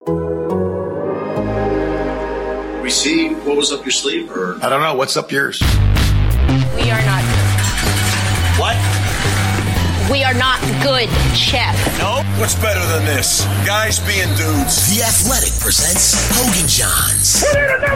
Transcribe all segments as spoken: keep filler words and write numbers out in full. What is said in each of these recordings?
We see what was up your sleeve, or I don't know. What's up yours? We are not good. What? We are not good, Chef. No. What's better than this? Guys being dudes. The Athletic presents Hogan Johns.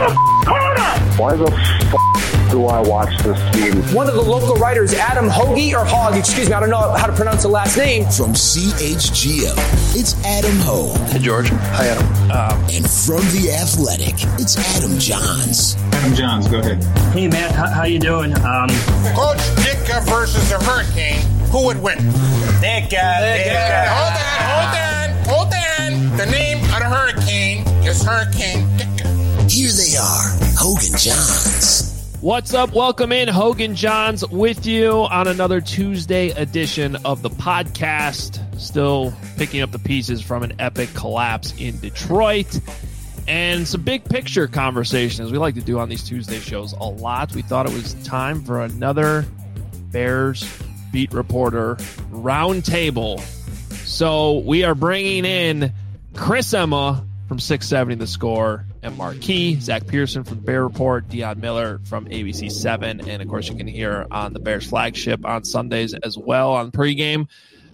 Why the f*** do I watch this team? One of the local writers, Adam Hoagie, or Hogg, excuse me, I don't know how to pronounce the last name. From C H G O, it's Adam Hogue. Hey, George. Hi, Adam. Um, and from The Athletic, it's Adam Johns. Adam Johns, go ahead. Hey, Matt, how, how you doing? Um, Coach Ditka versus the Hurricane. Who would win? Ditka. Ditka. Hold on, hold on, hold on. The name of the Hurricane is Hurricane Ditka. Here they are, Hogan Johns. What's up? Welcome in. Hogan Johns with you on another Tuesday edition of the podcast. Still picking up the pieces from an epic collapse in Detroit. And some big picture conversation, as we like to do on these Tuesday shows a lot. We thought it was time for another Bears beat reporter roundtable. So we are bringing in Chris Emma from six seventy The Score and Marquee, Zach Pearson from the Bear Report, Dion Miller from A B C seven, and of course you can hear on the Bears flagship on Sundays as well on pregame.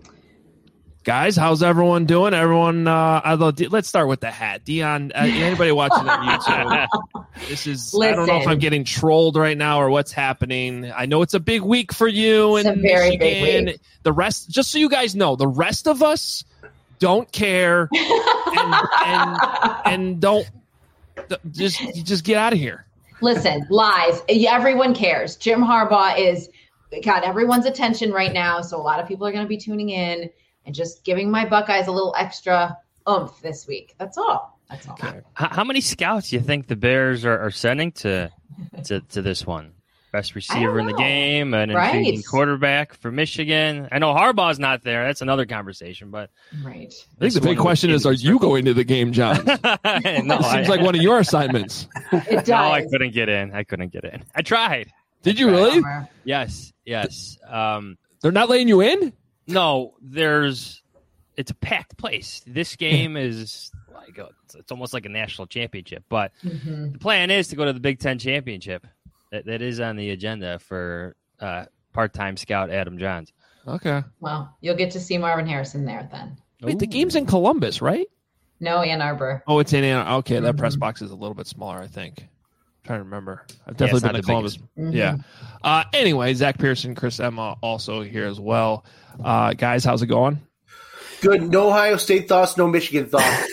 Guys, how's everyone doing? Everyone, uh, although, let's start with the hat. Dion, uh, anybody watching on YouTube? This is, Listen. I don't know if I'm getting trolled right now or what's happening. I know it's a big week for you it's in a very Michigan. Big week. The rest, just so you guys know, the rest of us don't care and, and, and don't just just get out of here. Listen, lies. Everyone cares. Jim Harbaugh is got everyone's attention right now, so a lot of people are going to be tuning in and just giving my Buckeyes a little extra oomph this week. That's all. That's all. Okay. How, how many scouts do you think the Bears are, are sending to, to to this one? Best receiver in the game, an right. intriguing quarterback for Michigan. I know Harbaugh's not there. That's another conversation. But right. I think the big question is, are you going to the game, John? no, it seems I, like one of your assignments. It does. No, I couldn't get in. I couldn't get in. I tried. Did you really? Yes, yes. Um, They're not letting you in? No, there's – it's a packed place. This game is like a, it's almost like a national championship. But mm-hmm. the plan is to go to the Big Ten championship. That, that is on the agenda for uh, part-time scout Adam Johns. Okay. Well, you'll get to see Marvin Harrison there then. Wait, Ooh. The game's in Columbus, right? No, Ann Arbor. Oh, it's in Ann Arbor. Okay, mm-hmm. that press box is a little bit smaller, I think. I'm trying to remember. I've definitely yeah, been to Columbus. Mm-hmm. Yeah. Uh, anyway, Zach Pearson, Chris Emma also here as well. Uh, guys, how's it going? Good. No Ohio State thoughts, no Michigan thoughts.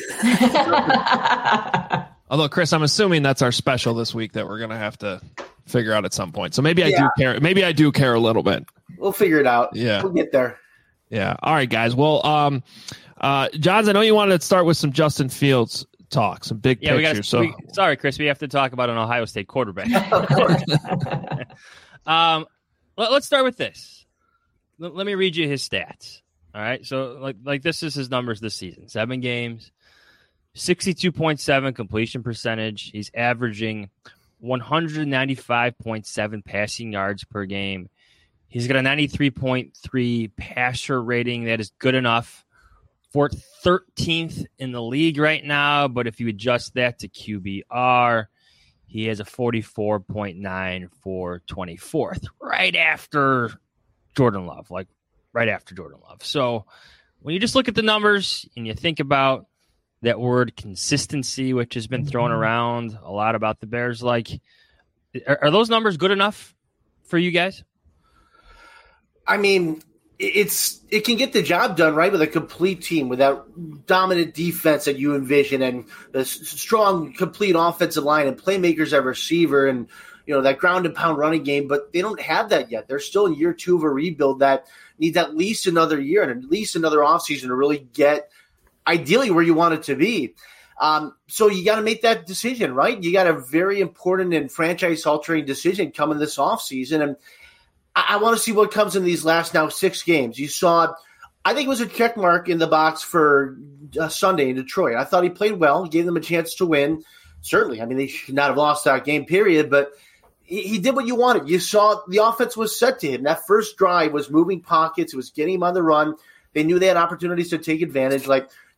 Although, Chris, I'm assuming that's our special this week that we're going to have to figure out at some point. So maybe I yeah. do care. Maybe I do care a little bit. We'll figure it out. Yeah. We'll get there. Yeah. All right, guys. Well, um, uh, Johns, I know you wanted to start with some Justin Fields talk, some big yeah, pictures. So we, sorry, Chris, we have to talk about an Ohio State quarterback. Of course. um, let, let's start with this. L- let me read you his stats. All right. So like, like this is his numbers this season, seven games, sixty-two point seven completion percentage. He's averaging one hundred ninety-five point seven passing yards per game. He's got a ninety-three point three passer rating. That is good enough for thirteenth in the league right now. But if you adjust that to Q B R, he has a forty-four point nine for twenty-fourth, right after Jordan Love, like right after Jordan Love. So when you just look at the numbers and you think about that word consistency, which has been thrown around a lot about the Bears, like, are, are those numbers good enough for you guys? I mean, it's it can get the job done, right, with a complete team, with that dominant defense that you envision and the strong, complete offensive line and playmakers at receiver and, you know, that ground and pound running game. But they don't have that yet. They're still in year two of a rebuild that needs at least another year and at least another offseason to really get ideally where you want it to be. Um, so you got to make that decision, right? You got a very important and franchise-altering decision coming this offseason. And I, I want to see what comes in these last now six games. You saw, I think it was a check mark in the box for uh, Sunday in Detroit. I thought he played well, gave them a chance to win. Certainly, I mean, they should not have lost that game, period, but he, he did what you wanted. You saw the offense was set to him. That first drive was moving pockets. It was getting him on the run. They knew they had opportunities to take advantage. Like,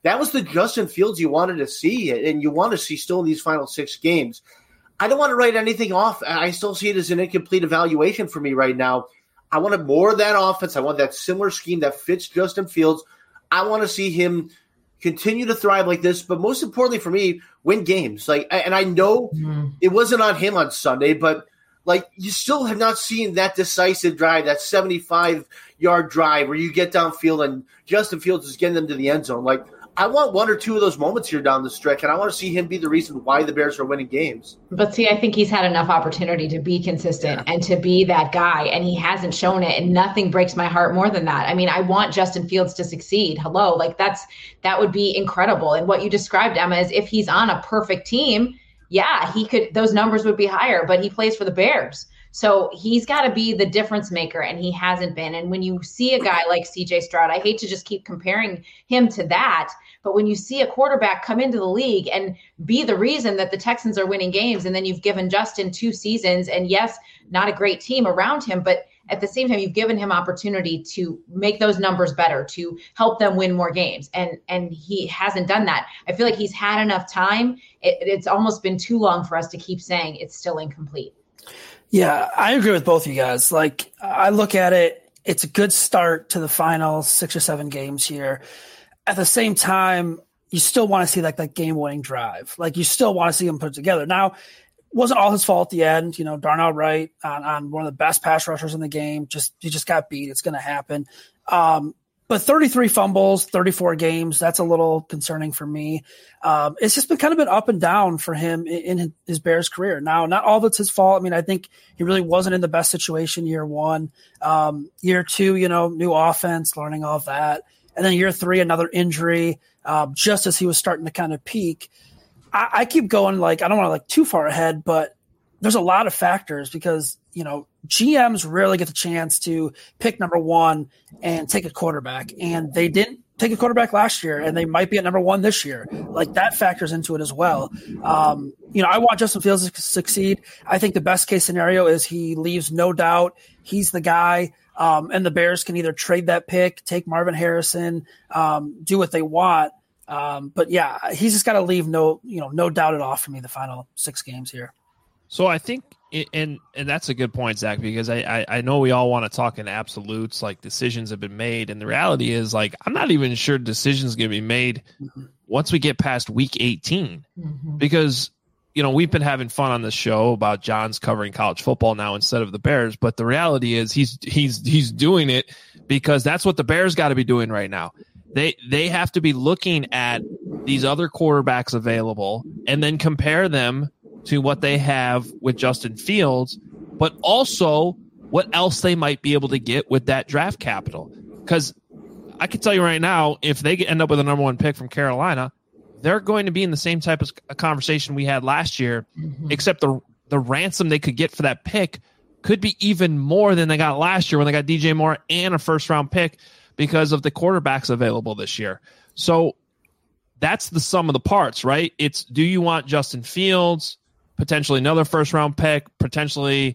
that was the Justin Fields you wanted to see, and you want to see still in these final six games. I don't want to write anything off. I still see it as an incomplete evaluation for me right now. I wanted more of that offense. I want that similar scheme that fits Justin Fields. I want to see him continue to thrive like this, but most importantly for me, win games. Like, and I know mm-hmm. it wasn't on him on Sunday, but like you still have not seen that decisive drive, that seventy-five-yard drive where you get downfield and Justin Fields is getting them to the end zone. Like, I want one or two of those moments here down the stretch, and I want to see him be the reason why the Bears are winning games. But see, I think he's had enough opportunity to be consistent yeah. and to be that guy, and he hasn't shown it, and nothing breaks my heart more than that. I mean, I want Justin Fields to succeed. Hello, like that's that would be incredible. And what you described, Emma, is if he's on a perfect team, yeah, he could. Those numbers would be higher, but he plays for the Bears. So he's got to be the difference maker, and he hasn't been. And when you see a guy like C J Stroud, I hate to just keep comparing him to that, but when you see a quarterback come into the league and be the reason that the Texans are winning games, and then you've given Justin two seasons, and yes, not a great team around him, but at the same time, you've given him opportunity to make those numbers better, to help them win more games. And and he hasn't done that. I feel like he's had enough time. It, it's almost been too long for us to keep saying it's still incomplete. Yeah, I agree with both of you guys. Like, I look at it, it's a good start to the final six or seven games here. At the same time, you still want to see like that game-winning drive. Like, you still want to see him put it together. Now, it wasn't all his fault at the end. You know, Darnell Wright on, on one of the best pass rushers in the game. Just he just got beat. It's going to happen. Um, but thirty-three fumbles, thirty-four games, that's a little concerning for me. Um, it's just been kind of been up and down for him in, in his Bears career. Now, not all that's his fault. I mean, I think he really wasn't in the best situation year one. Um, year two, you know, new offense, learning all of that. And then year three, another injury, um, just as he was starting to kind of peak. I, I keep going, like, I don't want to like too far ahead, but there's a lot of factors because, you know, G Ms rarely get the chance to pick number one and take a quarterback. And they didn't take a quarterback last year, and they might be at number one this year. Like, that factors into it as well. Um, you know, I want Justin Fields to succeed. I think the best case scenario is he leaves no doubt. He's the guy. Um, and the Bears can either trade that pick, take Marvin Harrison, um, do what they want. Um, but yeah, he's just got to leave no, you know, no doubt at all for me the final six games here. So I think, and and that's a good point, Zach, because I, I, I know we all want to talk in absolutes, like decisions have been made. And the reality is, like, I'm not even sure decisions going to be made mm-hmm. once we get past week eighteen, mm-hmm. because, you know, we've been having fun on this show about John's covering college football now instead of the Bears. But the reality is he's he's he's doing it because that's what the Bears got to be doing right now. They they have to be looking at these other quarterbacks available and then compare them to what they have with Justin Fields, but also what else they might be able to get with that draft capital. Because I can tell you right now, if they end up with a number one pick from Carolina, they're going to be in the same type of conversation we had last year, mm-hmm. except the the ransom they could get for that pick could be even more than they got last year when they got D J Moore and a first-round pick because of the quarterbacks available this year. So that's the sum of the parts, right? It's, do you want Justin Fields, potentially another first-round pick, potentially,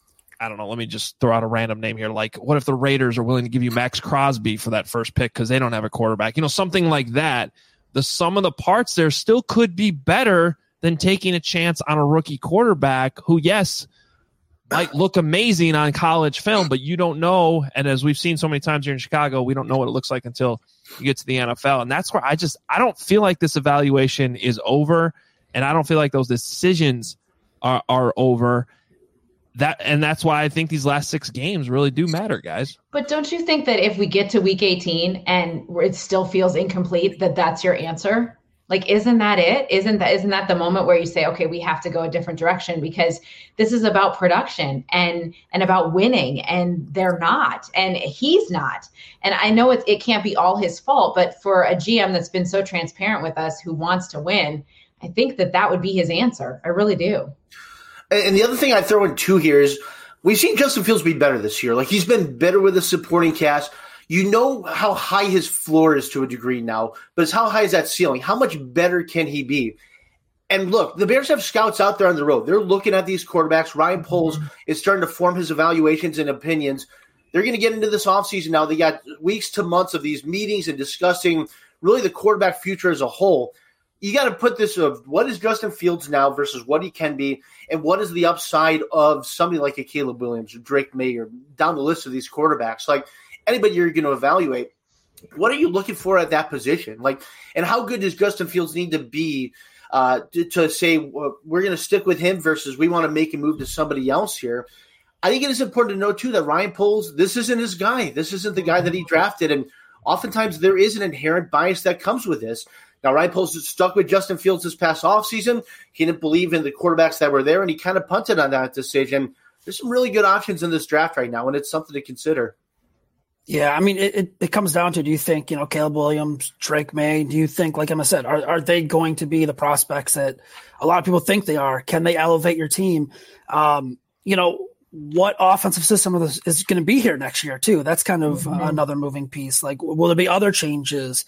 I don't know, let me just throw out a random name here. Like, what if the Raiders are willing to give you Max Crosby for that first pick because they don't have a quarterback? You know, something like that. The sum of the parts there still could be better than taking a chance on a rookie quarterback who, yes, might look amazing on college film, but you don't know. And as we've seen so many times here in Chicago, we don't know what it looks like until you get to the N F L. And that's where I just, I don't feel like this evaluation is over. And I don't feel like those decisions are, are over. That and that's why I think these last six games really do matter, guys. But don't you think that if we get to week eighteen and it still feels incomplete, that that's your answer? Like, isn't that it? Isn't that isn't that the moment where you say, okay, we have to go a different direction because this is about production and and about winning, and they're not, and he's not. And I know it it can't be all his fault, but for a G M that's been so transparent with us who wants to win, I think that that would be his answer. I really do. And the other thing I throw in too here is we've seen Justin Fields be better this year. Like, he's been better with the supporting cast. You know how high his floor is to a degree now, but it's how high is that ceiling? How much better can he be? And look, the Bears have scouts out there on the road. They're looking at these quarterbacks. Ryan Poles is starting to form his evaluations and opinions. They're going to get into this offseason now. They got weeks to months of these meetings and discussing really the quarterback future as a whole, you got to put this of what is Justin Fields now versus what he can be, and what is the upside of somebody like a Caleb Williams or Drake May or down the list of these quarterbacks. Like anybody you're going to evaluate, what are you looking for at that position? Like, and how good does Justin Fields need to be uh, to, to say well, we're going to stick with him versus we want to make a move to somebody else here? I think it is important to know, too, that Ryan Poles, this isn't his guy. This isn't the guy that he drafted. And oftentimes there is an inherent bias that comes with this. Now, Ryan Poles is stuck with Justin Fields this past offseason. He didn't believe in the quarterbacks that were there, and he kind of punted on that decision. There's some really good options in this draft right now, and it's something to consider. Yeah, I mean, it, it, it comes down to, do you think, you know, Caleb Williams, Drake May, do you think, like Emma said, are, are they going to be the prospects that a lot of people think they are? Can they elevate your team? Um, you know, what offensive system is, is going to be here next year, too? That's kind of mm-hmm. another moving piece. Like, will there be other changes?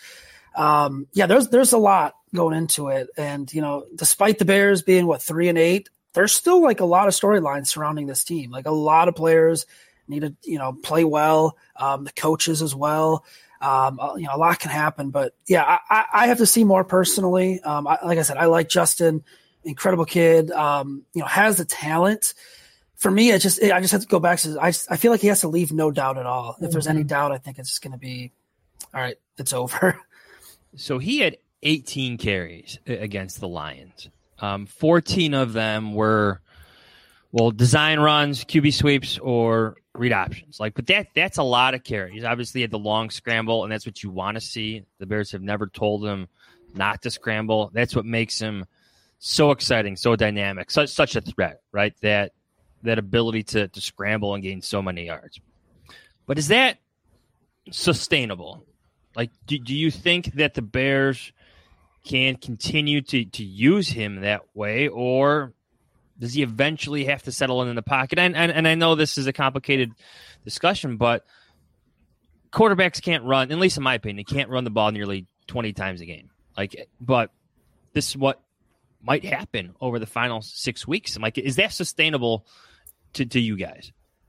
Um, yeah, there's there's a lot going into it. And, you know, despite the Bears being, what, three and eight, there's still, like, a lot of storylines surrounding this team. Like, a lot of players – need to, you know, play well. Um, the coaches as well. Um, you know, a lot can happen, but yeah, I, I have to see more personally. Um, I, like I said, I like Justin, incredible kid. Um, you know, has the talent. For me, it just, it, I just have to go back to. I just, I feel like he has to leave no doubt at all. If there's any doubt, I think it's just going to be, all right, it's over. So he had eighteen carries against the Lions. Um, fourteen of them were, well, design runs, Q B sweeps, or read options. Like, but that that's a lot of carries. Obviously, he had the long scramble, and that's what you want to see. The Bears have never told him not to scramble. That's what makes him so exciting, so dynamic, such such a threat, right? That that ability to to scramble and gain so many yards. But is that sustainable? Like, do, do you think that the Bears can continue to to use him that way, or does he eventually have to settle in, in the pocket? And, and and I know this is a complicated discussion, but quarterbacks can't run, at least in my opinion, they can't run the ball nearly twenty times a game. Like, but this is what might happen over the final six weeks. I'm like, is that sustainable to, to you guys?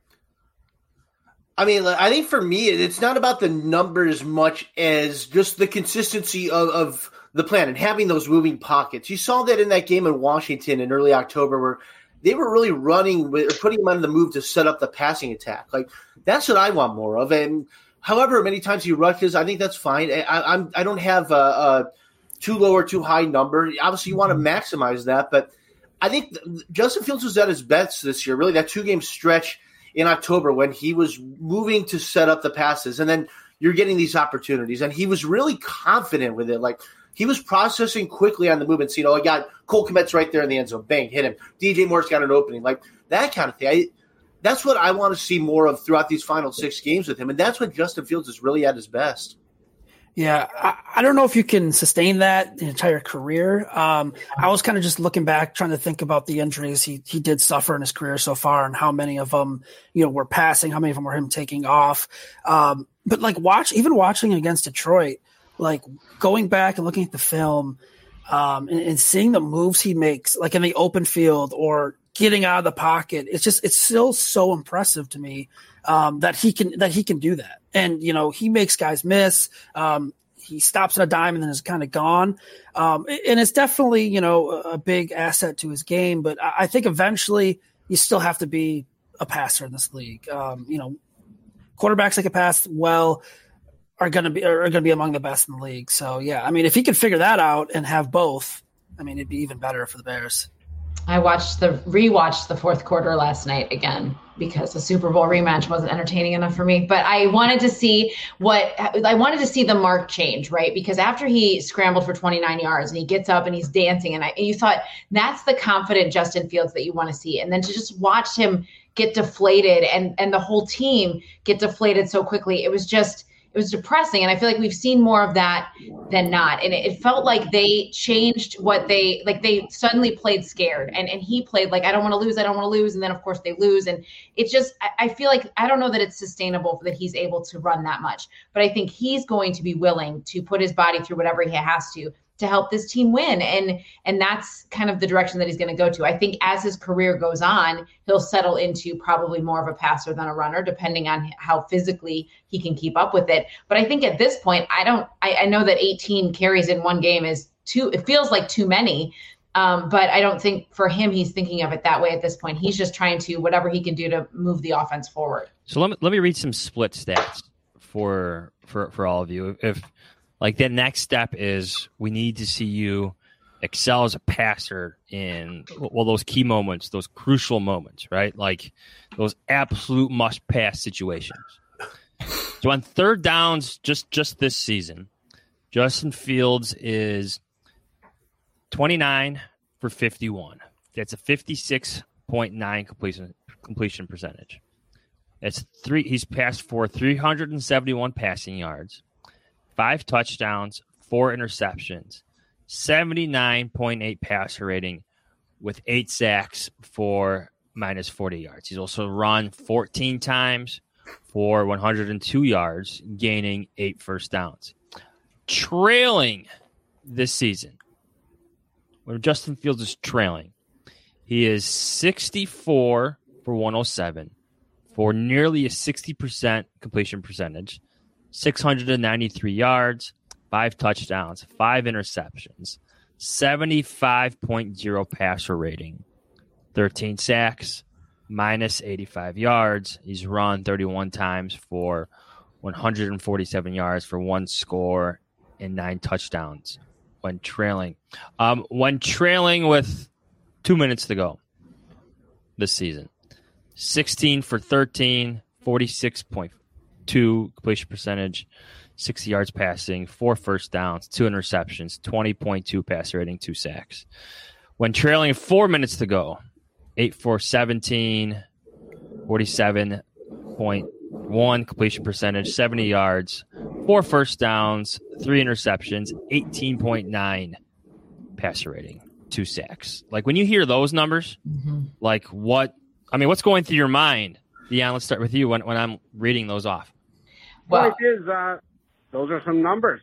I mean, I think for me, it's not about the numbers as much as just the consistency of, of the plan and having those moving pockets. You saw that in that game in Washington in early October where they were really running with, or putting him on the move to set up the passing attack. Like, that's what I want more of. And however many times he rushes, I think that's fine. I, I'm, I don't have a, a too low or too high number. Obviously, you want to maximize that. But I think Justin Fields was at his best this year, really, that two-game stretch in October when he was moving to set up the passes. And then you're getting these opportunities. And he was really confident with it. Like, he was processing quickly on the movement. So, you know, I got Cole Kmet's right there in the end zone. Bang, hit him. D J Moore's got an opening. Like, that kind of thing. I, that's what I want to see more of throughout these final six games with him. And that's when Justin Fields is really at his best. Yeah, I, I don't know if you can sustain that the entire career. Um, I was kind of just looking back, trying to think about the injuries he he did suffer in his career so far, and how many of them, you know, were passing, how many of them were him taking off. Um, but like watch, even watching against Detroit, like going back and looking at the film, um, and, and seeing the moves he makes, like in the open field or getting out of the pocket, it's just it's still so impressive to me. Um, that he can that he can do that, and you know he makes guys miss. Um, he stops at a dime and then is kind of gone, um, and it's definitely you know a big asset to his game. But I think eventually you still have to be a passer in this league. Um, you know, quarterbacks that can pass well are going to be are going to be among the best in the league. So yeah, I mean, if he could figure that out and have both, I mean, it'd be even better for the Bears. I watched the rewatched the fourth quarter last night again because the Super Bowl rematch wasn't entertaining enough for me. But I wanted to see what I wanted to see the mark change, right? Because after he scrambled for twenty-nine yards and he gets up and he's dancing, and, I, and you thought that's the confident Justin Fields that you want to see. And then to just watch him get deflated and and the whole team get deflated so quickly, it was just. It was depressing, and I feel like we've seen more of that than not. And it, it felt like they changed what they – like they suddenly played scared, and, and he played like, I don't want to lose, I don't want to lose, and then, of course, they lose. And it just – I feel like – I don't know that it's sustainable that he's able to run that much, but I think he's going to be willing to put his body through whatever he has to to help this team win. And, and that's kind of the direction that he's going to go to. I think as his career goes on, he'll settle into probably more of a passer than a runner, depending on how physically he can keep up with it. But I think at this point, I don't, I, I know that eighteen carries in one game is too, it feels like too many. Um, but I don't think for him, he's thinking of it that way at this point. He's just trying to, whatever he can do to move the offense forward. So let me, let me read some split stats for, for, for all of you. If, Like the next step is we need to see you excel as a passer in, well, those key moments, those crucial moments, right? Like those absolute must-pass situations. So on third downs, just, just this season, Justin Fields is twenty-nine for fifty-one. That's a fifty-six point nine completion completion percentage. That's three. He's passed for three hundred seventy-one passing yards. Five touchdowns, four interceptions, seventy-nine point eight passer rating with eight sacks for minus forty yards. He's also run fourteen times for one hundred two yards, gaining eight first downs. Trailing this season, when Justin Fields is trailing, he is sixty-four for one oh seven for nearly a sixty percent completion percentage. six hundred ninety-three yards, five touchdowns, five interceptions, seventy-five point oh passer rating, thirteen sacks, minus eighty-five yards. He's run thirty-one times for one hundred forty-seven yards for one score and nine touchdowns when trailing. Um, when trailing with two minutes to go this season, sixteen for thirteen, forty-six point two completion percentage, sixty yards passing, four first downs, two interceptions, twenty point two passer rating, two sacks. When trailing four minutes to go, eight for seventeen, forty-seven point one completion percentage, seventy yards, four first downs, three interceptions, eighteen point nine passer rating, two sacks. Like when you hear those numbers, mm-hmm. like what, I mean, what's going through your mind? Deanna, let's start with you when, when I'm reading those off. Well, it is, uh, those are some numbers.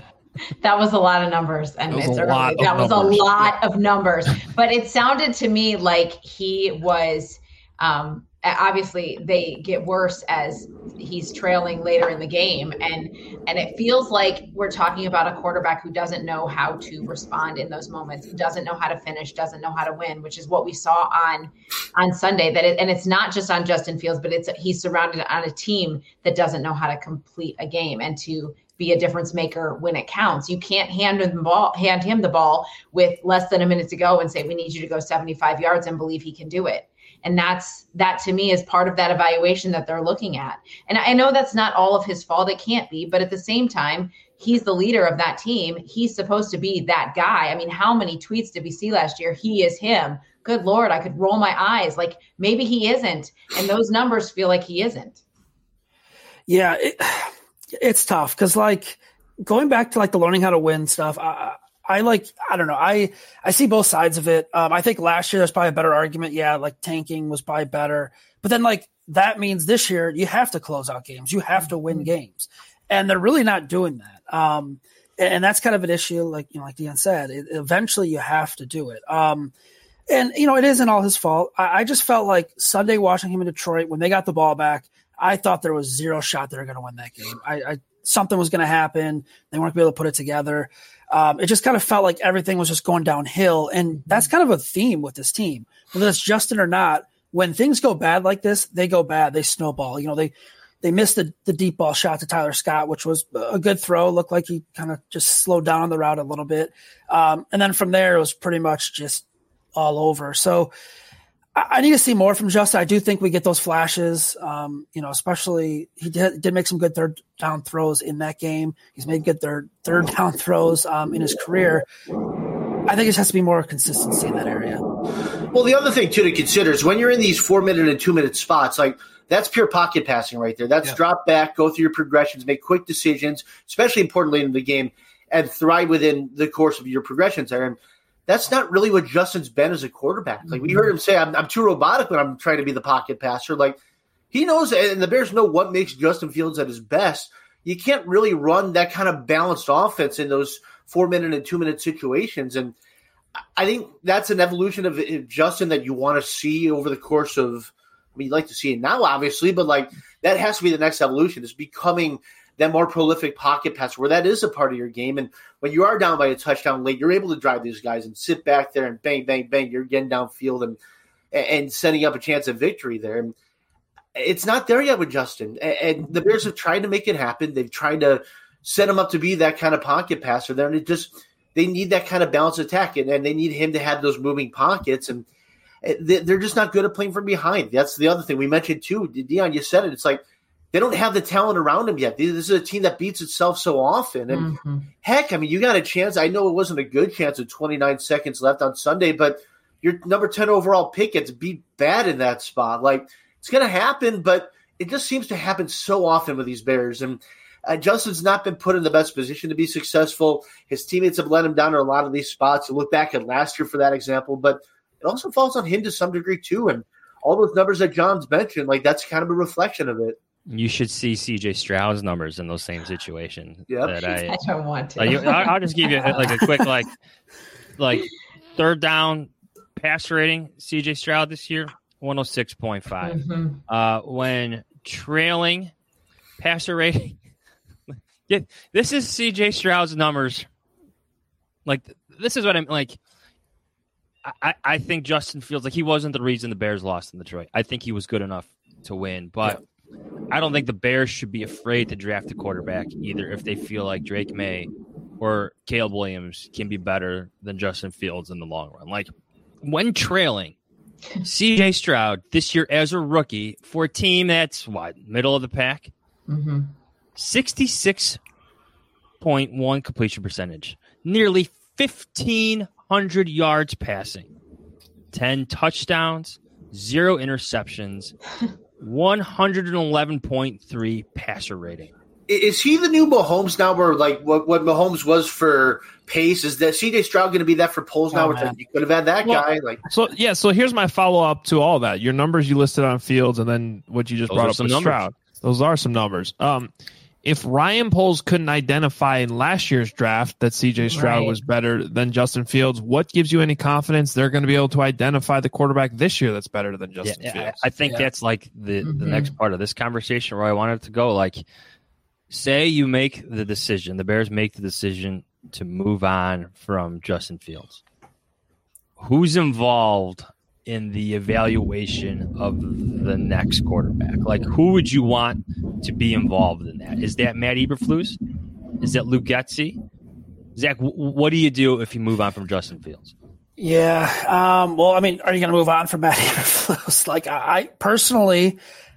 That was a lot of numbers, and that was, it's a, early. lot that was numbers. a lot of numbers. But it sounded to me like he was. Um, obviously, they get worse as he's trailing later in the game, and and it feels like we're talking about a quarterback who doesn't know how to respond in those moments, who doesn't know how to finish, doesn't know how to win, which is what we saw on on Sunday. That it, and it's not just on Justin Fields, but it's he's surrounded on a team that doesn't know how to complete a game and to be a difference maker when it counts. You can't hand him the ball, hand him the ball with less than a minute to go and say, we need you to go seventy-five yards and believe he can do it. And that's, that to me is part of that evaluation that they're looking at. And I know that's not all of his fault. It can't be, but at the same time, he's the leader of that team. He's supposed to be that guy. I mean, how many tweets did we see last year? He is him. Good Lord, I could roll my eyes. Like maybe he isn't. And those numbers feel like he isn't. Yeah. It, It's tough because, like, going back to like the learning how to win stuff, I, I like I don't know. I I see both sides of it. Um, I think last year there's probably a better argument. Yeah, like tanking was probably better, but then like that means this year you have to close out games. You have to win games, and they're really not doing that. Um, and, and that's kind of an issue. Like you know, like Deanna said, it, eventually you have to do it. Um, and you know, it isn't all his fault. I, I just felt like Sunday watching him in Detroit when they got the ball back. I thought there was zero shot they were going to win that game. I, I something was going to happen. They weren't going to be able to put it together. Um, it just kind of felt like everything was just going downhill, and that's kind of a theme with this team, whether it's Justin or not. When things go bad like this, they go bad. They snowball. You know, they they missed the, the deep ball shot to Tyler Scott, which was a good throw. Looked like he kind of just slowed down on the route a little bit, um, and then from there it was pretty much just all over. So. I need to see more from Justin. I do think we get those flashes, um, you know, especially he did, did make some good third down throws in that game. He's made good third, third down throws um, in his career. I think it has to be more consistency in that area. Well, the other thing, too, to consider is when you're in these four-minute and two-minute spots, like that's pure pocket passing right there. That's yeah. drop back, go through your progressions, make quick decisions, especially importantly in the game, and thrive within the course of your progressions there. And that's not really what Justin's been as a quarterback. Like we heard him say, I'm, I'm too robotic when I'm trying to be the pocket passer. Like he knows, and the Bears know what makes Justin Fields at his best. You can't really run that kind of balanced offense in those four-minute and two-minute situations. And I think that's an evolution of Justin that you want to see over the course of – I mean, you'd like to see it now, obviously, but, like, that has to be the next evolution, is becoming that more prolific pocket passer where that is a part of your game. And when you are down by a touchdown late, you're able to drive these guys and sit back there and bang, bang, bang. You're getting downfield and and setting up a chance of victory there. And it's not there yet with Justin. And the Bears have tried to make it happen. They've tried to set him up to be that kind of pocket passer there. And it just – they need that kind of balanced attack, and, and they need him to have those moving pockets. And they're just not good at playing from behind. That's the other thing we mentioned too. Dion, you said it. It's like they don't have the talent around him yet. This is a team that beats itself so often. And mm-hmm. heck, I mean, you got a chance. I know it wasn't a good chance with twenty-nine seconds left on Sunday, but your number ten overall pick gets beat bad in that spot. Like, it's going to happen, but it just seems to happen so often with these Bears. And uh, Justin's not been put in the best position to be successful. His teammates have let him down in a lot of these spots. You look back at last year for that example, but it also falls on him to some degree too. And all those numbers that John's mentioned, like, that's kind of a reflection of it. You should see C J Stroud's numbers in those same situations. Yep. That I, I don't want to. Like, I'll, I'll just give you like a quick, like, like third down passer rating. C J Stroud this year, one oh six point five. Mm-hmm. Uh, when trailing passer rating, yeah, this is C J Stroud's numbers. Like, this is what I'm like. I, I think Justin Fields, like, he wasn't the reason the Bears lost in Detroit. I think he was good enough to win, but yeah. I don't think the Bears should be afraid to draft a quarterback either if they feel like Drake May or Caleb Williams can be better than Justin Fields in the long run. Like, when trailing, C J Stroud this year as a rookie for a team that's, what, middle of the pack? Mm-hmm. sixty-six point one completion percentage, nearly fifteen hundred yards passing, ten touchdowns, zero interceptions, one eleven point three passer rating. Is he the new Mahomes now, where, like, what, what Mahomes was for pace? Is that C J Stroud going to be that for Poles now? Oh, Which you could have had that well, guy. Like, so, yeah, so here's my follow-up to all that. Your numbers you listed on Fields and then what you just Those brought up with numbers. Stroud. Those are some numbers. Um, If Ryan Poles couldn't identify in last year's draft that C J Stroud Right. was better than Justin Fields, what gives you any confidence they're going to be able to identify the quarterback this year that's better than Justin Yeah, Fields? I, I think Yeah. that's like the, Mhm. the next part of this conversation where I wanted to go. Like, say you make the decision, the Bears make the decision to move on from Justin Fields. Who's involved in the evaluation of the next quarterback? Like, who would you want to be involved in that? Is that Matt Eberflus? Is that Luke Getsy? Zach, w- what do you do if you move on from Justin Fields? Yeah. Um, well, I mean, are you going to move on from Matt Eberflus? Like, I, I personally,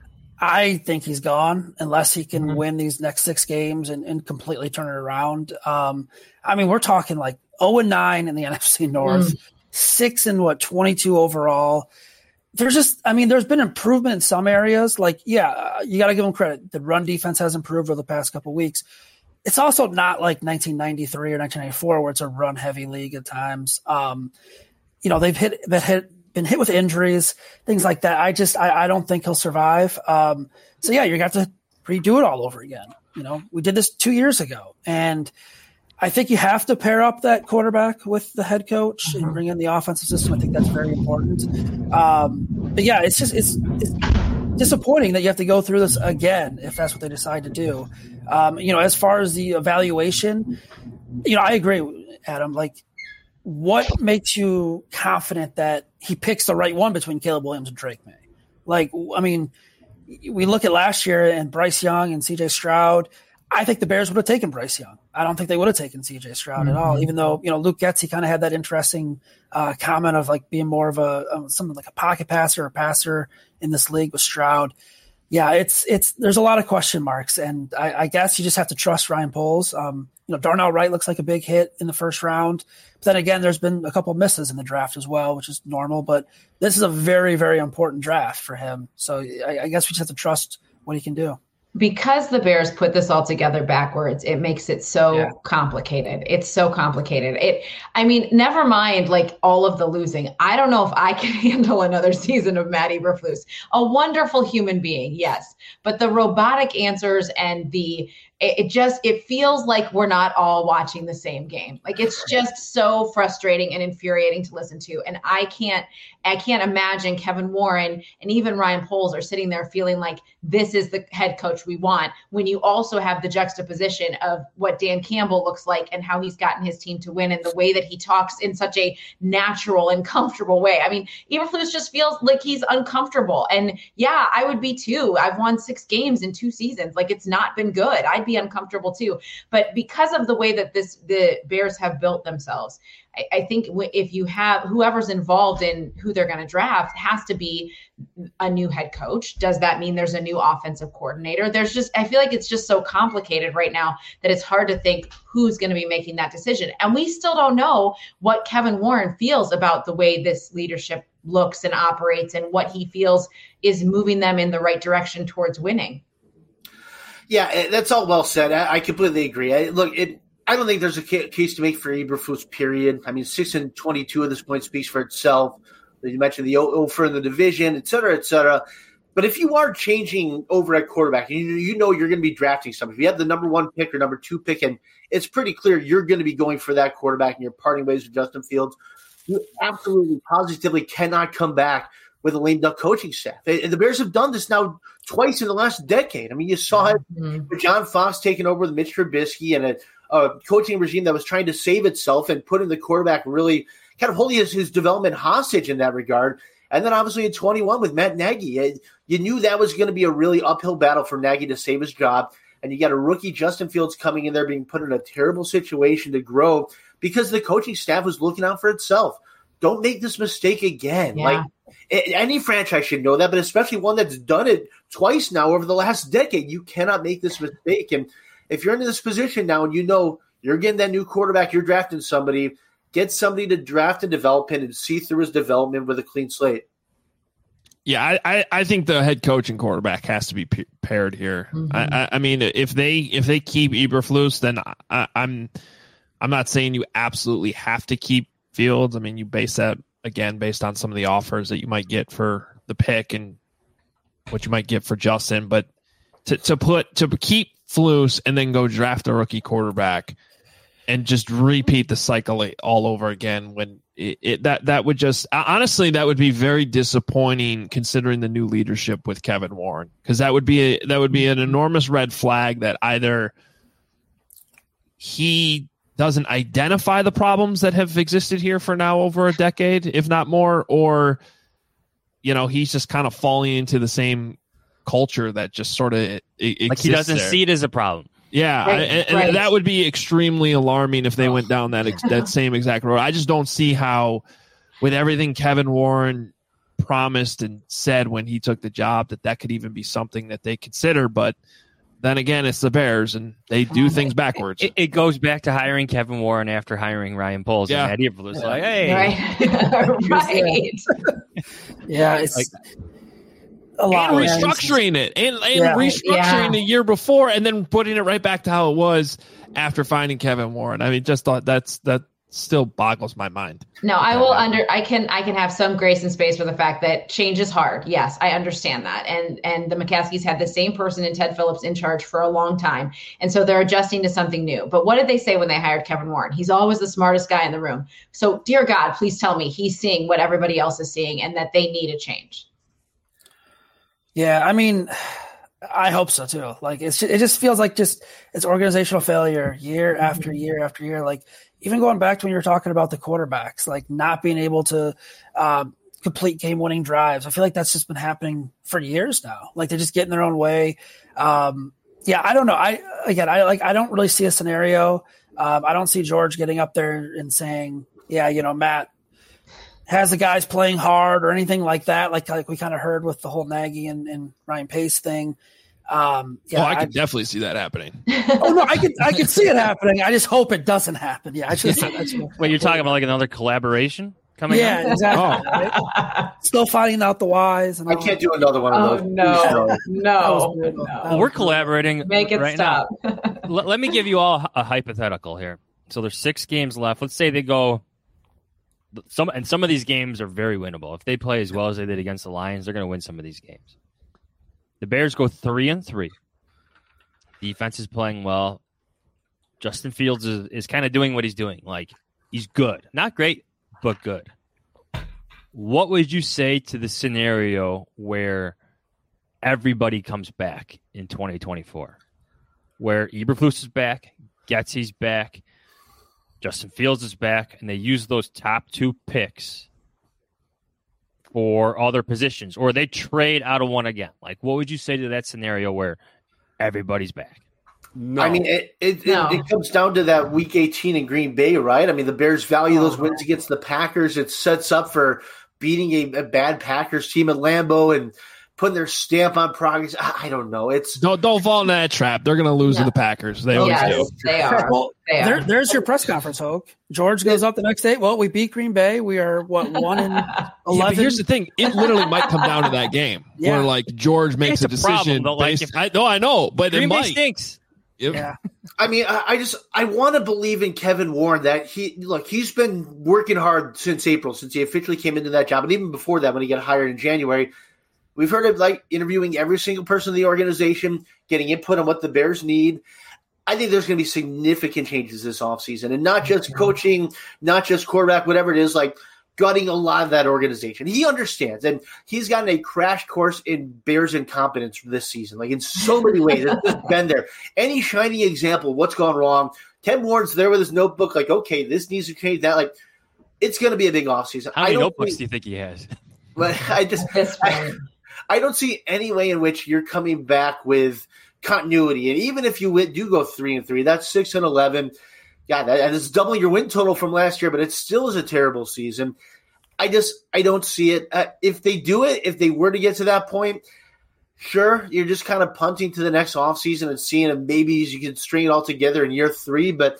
I think he's gone unless he can Mhm. win these next six games and, and completely turn it around. Um, I mean, we're talking like oh and nine in the N F C North, Mm. six and what, twenty-two overall. There's just, I mean, there's been improvement in some areas. Like, yeah, uh, you got to give them credit. The run defense has improved over the past couple of weeks. It's also not like nineteen ninety-three or nineteen ninety-four where it's a run heavy league at times. Um, you know, they've hit, been hit, been hit with injuries, things like that. I just, I, I don't think he'll survive. Um, so yeah, you're going to have to redo it all over again. You know, we did this two years ago, and I think you have to pair up that quarterback with the head coach Mm-hmm. and bring in the offensive system. I think that's very important. Um, but yeah, it's just, it's, it's disappointing that you have to go through this again if that's what they decide to do. Um, you know, as far as the evaluation, you know, I agree, Adam. Like, what makes you confident that he picks the right one between Caleb Williams and Drake May? Like, I mean, we look at last year and Bryce Young and C J Stroud. I think the Bears would have taken Bryce Young. I don't think they would have taken C J Stroud mm-hmm. at all, even though, you know, Luke Getsy kind of had that interesting uh, comment of like being more of a um, something like a pocket passer or passer in this league with Stroud. Yeah, it's it's there's a lot of question marks, and I, I guess you just have to trust Ryan Poles. Um, you know, Darnell Wright looks like a big hit in the first round, but then again, there's been a couple misses in the draft as well, which is normal. But this is a very, very important draft for him, so I, I guess we just have to trust what he can do. Because the Bears put this all together backwards, it makes it so Yeah. complicated. It's so complicated. It, I mean, never mind like all of the losing. I don't know if I can handle another season of Matt Eberflus. A wonderful human being, yes, but the robotic answers and the it, it just, it feels like we're not all watching the same game. Like, it's just so frustrating and infuriating to listen to. And I can't, I can't imagine Kevin Warren and even Ryan Poles are sitting there feeling like this is the head coach we want, when you also have the juxtaposition of what Dan Campbell looks like and how he's gotten his team to win, and the way that he talks in such a natural and comfortable way. I mean, Eberflus just feels like he's uncomfortable. And yeah, I would be too. I've won six games in two seasons. Like, it's not been good. I'd be uncomfortable too. But because of the way that this the Bears have built themselves, I, I think if you have whoever's involved in who they're going to draft has to be a new head coach. Does that mean there's a new offensive coordinator? There's just, I feel like it's just so complicated right now that it's hard to think who's going to be making that decision. And we still don't know what Kevin Warren feels about the way this leadership looks and operates, and what he feels is moving them in the right direction towards winning. Yeah, that's all well said. I, I completely agree. I, look, it, I don't think there's a ca- case to make for Eberflus, period. I mean, six and twenty-two at this point speaks for itself. You mentioned the over in the division, et cetera, et cetera. But if you are changing over at quarterback, and you, you know you're going to be drafting somebody, if you have the number one pick or number two pick, and it's pretty clear you're going to be going for that quarterback and you're parting ways with Justin Fields, you absolutely positively cannot come back with a lame duck coaching staff. And the Bears have done this now twice in the last decade. I mean, you saw it Mm-hmm. with John Fox taking over with Mitch Trubisky and a, a coaching regime that was trying to save itself and putting the quarterback really kind of holding his, his development hostage in that regard. And then obviously in twenty-one with Matt Nagy, you knew that was going to be a really uphill battle for Nagy to save his job. And you got a rookie Justin Fields coming in there being put in a terrible situation to grow because the coaching staff was looking out for itself. Don't make this mistake again. Yeah. Like any franchise should know that, but especially one that's done it twice now over the last decade. You cannot make this mistake. And if you're in this position now and you know you're getting that new quarterback, you're drafting somebody, get somebody to draft and develop him and see through his development with a clean slate. Yeah, I, I, I think the head coach and quarterback has to be p- paired here. Mm-hmm. I, I, I mean, if they if they keep Eberflus, then I, I'm I'm not saying you absolutely have to keep Fields. I mean, you base that again based on some of the offers that you might get for the pick and what you might get for Justin. But to to put to keep Flus and then go draft a rookie quarterback and just repeat the cycle all over again, when it, it that that would just honestly that would be very disappointing considering the new leadership with Kevin Warren, because that would be a, that would be an enormous red flag that either he doesn't identify the problems that have existed here for now over a decade, if not more, or you know he's just kind of falling into the same culture that just sort of it, it like he doesn't there. see it as a problem. Yeah, Right, and, and right. that would be extremely alarming if they went down that ex- that same exact road. I just don't see how, with everything Kevin Warren promised and said when he took the job, that that could even be something that they consider. But then again, it's the Bears, and they do things backwards. It, it goes back to hiring Kevin Warren after hiring Ryan Poles. Yeah. And Eberflus was like, hey, Right. right. Yeah, it's Like- a lot. and man. restructuring it and, and Yeah. restructuring Yeah. the year before and then putting it right back to how it was after finding Kevin Warren. I mean, just thought that's that still boggles my mind. No, I will under I can I can have some grace and space for the fact that change is hard. Yes, I understand that. And and the McCaskies had the same person in Ted Phillips in charge for a long time. And so they're adjusting to something new. But what did they say when they hired Kevin Warren? He's always the smartest guy in the room. So dear God, please tell me he's seeing what everybody else is seeing and that they need a change. Yeah, I mean, I hope so too. Like it's it just feels like just it's organizational failure year after year after year. Like even going back to when you were talking about the quarterbacks, like not being able to um, complete game-winning drives. I feel like that's just been happening for years now. Like they're just getting their own way. Um, yeah, I don't know. I again, I like I don't really see a scenario. Um, I don't see George getting up there and saying, "Yeah, you know, Matt has the guys playing hard," or anything like that. Like like we kind of heard with the whole Nagy and, and Ryan Pace thing. Um, yeah, oh, I could I, definitely see that happening. oh no, I could I could see it happening. I just hope it doesn't happen. Yeah, I should. That's Wait, you're talking about like another collaboration coming? Yeah, up? exactly. Right? Still finding out the whys. And I all can't that. do another one Oh of those. no, That no, was good. no. Well, we're collaborating Make it right stop. now. Let, let me give you all a hypothetical here. So there's six games left. Let's say they go. Some and some of these games are very winnable. If they play as well as they did against the Lions, they're going to win some of these games. The Bears go three and three. Defense is playing well. Justin Fields is, is kind of doing what he's doing. Like, he's good. Not great, but good. What would you say to the scenario where everybody comes back in twenty twenty-four? Where Eberflus is back, Getsy's back, Justin Fields is back, and they use those top two picks for other positions, or they trade out of one again. Like, what would you say to that scenario where everybody's back? No. I mean, it it, no. it it comes down to that week eighteen in Green Bay, right? I mean, the Bears value those wins against the Packers. It sets up for beating a, a bad Packers team at Lambeau and putting their stamp on progress. I, I don't know. It's don't don't fall into that trap. They're going to lose no. to the Packers. They always yes, do. They are. Well, they are. There, there's your press conference, Hoke. George goes up the next day. Well, we beat Green Bay. We are what one in eleven. Yeah, but here's the thing: it literally might come down to that game yeah. where like George makes it's a, a decision. Problem, based, like if, I know, I know, but Green it Bay might. stinks. Yep. Yeah. I mean, I, I just I want to believe in Kevin Warren that he look he's been working hard since April, since he officially came into that job, and even before that when he got hired in January. We've heard of like interviewing every single person in the organization, getting input on what the Bears need. I think there's going to be significant changes this offseason, and not just coaching, not just quarterback, whatever it is, like gutting a lot of that organization. He understands, and he's gotten a crash course in Bears incompetence this season, like in so many ways. It's been there. Any shining example of what's gone wrong, Ken Warren's there with his notebook, like, okay, this needs to change, that. Like, it's going to be a big offseason. How many I don't notebooks think, do you think he has? But I just I, I don't see any way in which you're coming back with continuity. And even if you win, do go three and three, that's six and eleven. Yeah, that is doubling your win total from last year, but it still is a terrible season. I just I don't see it. Uh, if they do it, if they were to get to that point, sure, you're just kind of punting to the next offseason and seeing if maybe you can string it all together in year three. But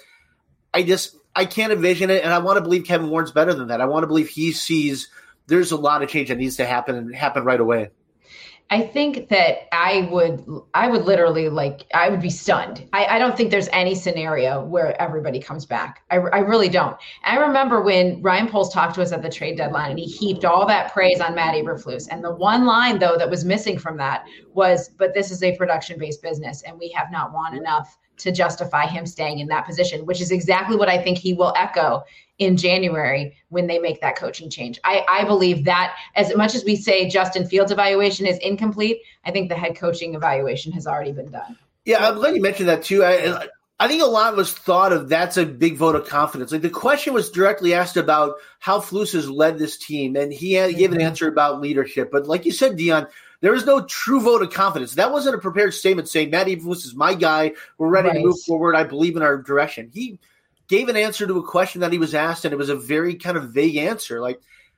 I just I can't envision it, and I want to believe Kevin Warren's better than that. I want to believe he sees there's a lot of change that needs to happen and happen right away. I think that I would, I would literally like, I would be stunned. I, I don't think there's any scenario where everybody comes back. I, I really don't. I remember when Ryan Poles talked to us at the trade deadline and he heaped all that praise on Matt Eberflus. And the one line though, that was missing from that was, but this is a production-based business and we have not won enough to justify him staying in that position, which is exactly what I think he will echo in January when they make that coaching change. I, I believe that as much as we say Justin Fields' evaluation is incomplete, I think the head coaching evaluation has already been done. Yeah, I'm glad you mentioned that too. I, I think a lot was thought of that's a big vote of confidence. Like the question was directly asked about how Flus has led this team, and he had, gave an answer about leadership. But like you said, Dion, there is no true vote of confidence. That wasn't a prepared statement saying, Matt Eberflus is my guy. We're ready right. to move forward. I believe in our direction. He gave an answer to a question that he was asked, and it was a very kind of vague answer. Like,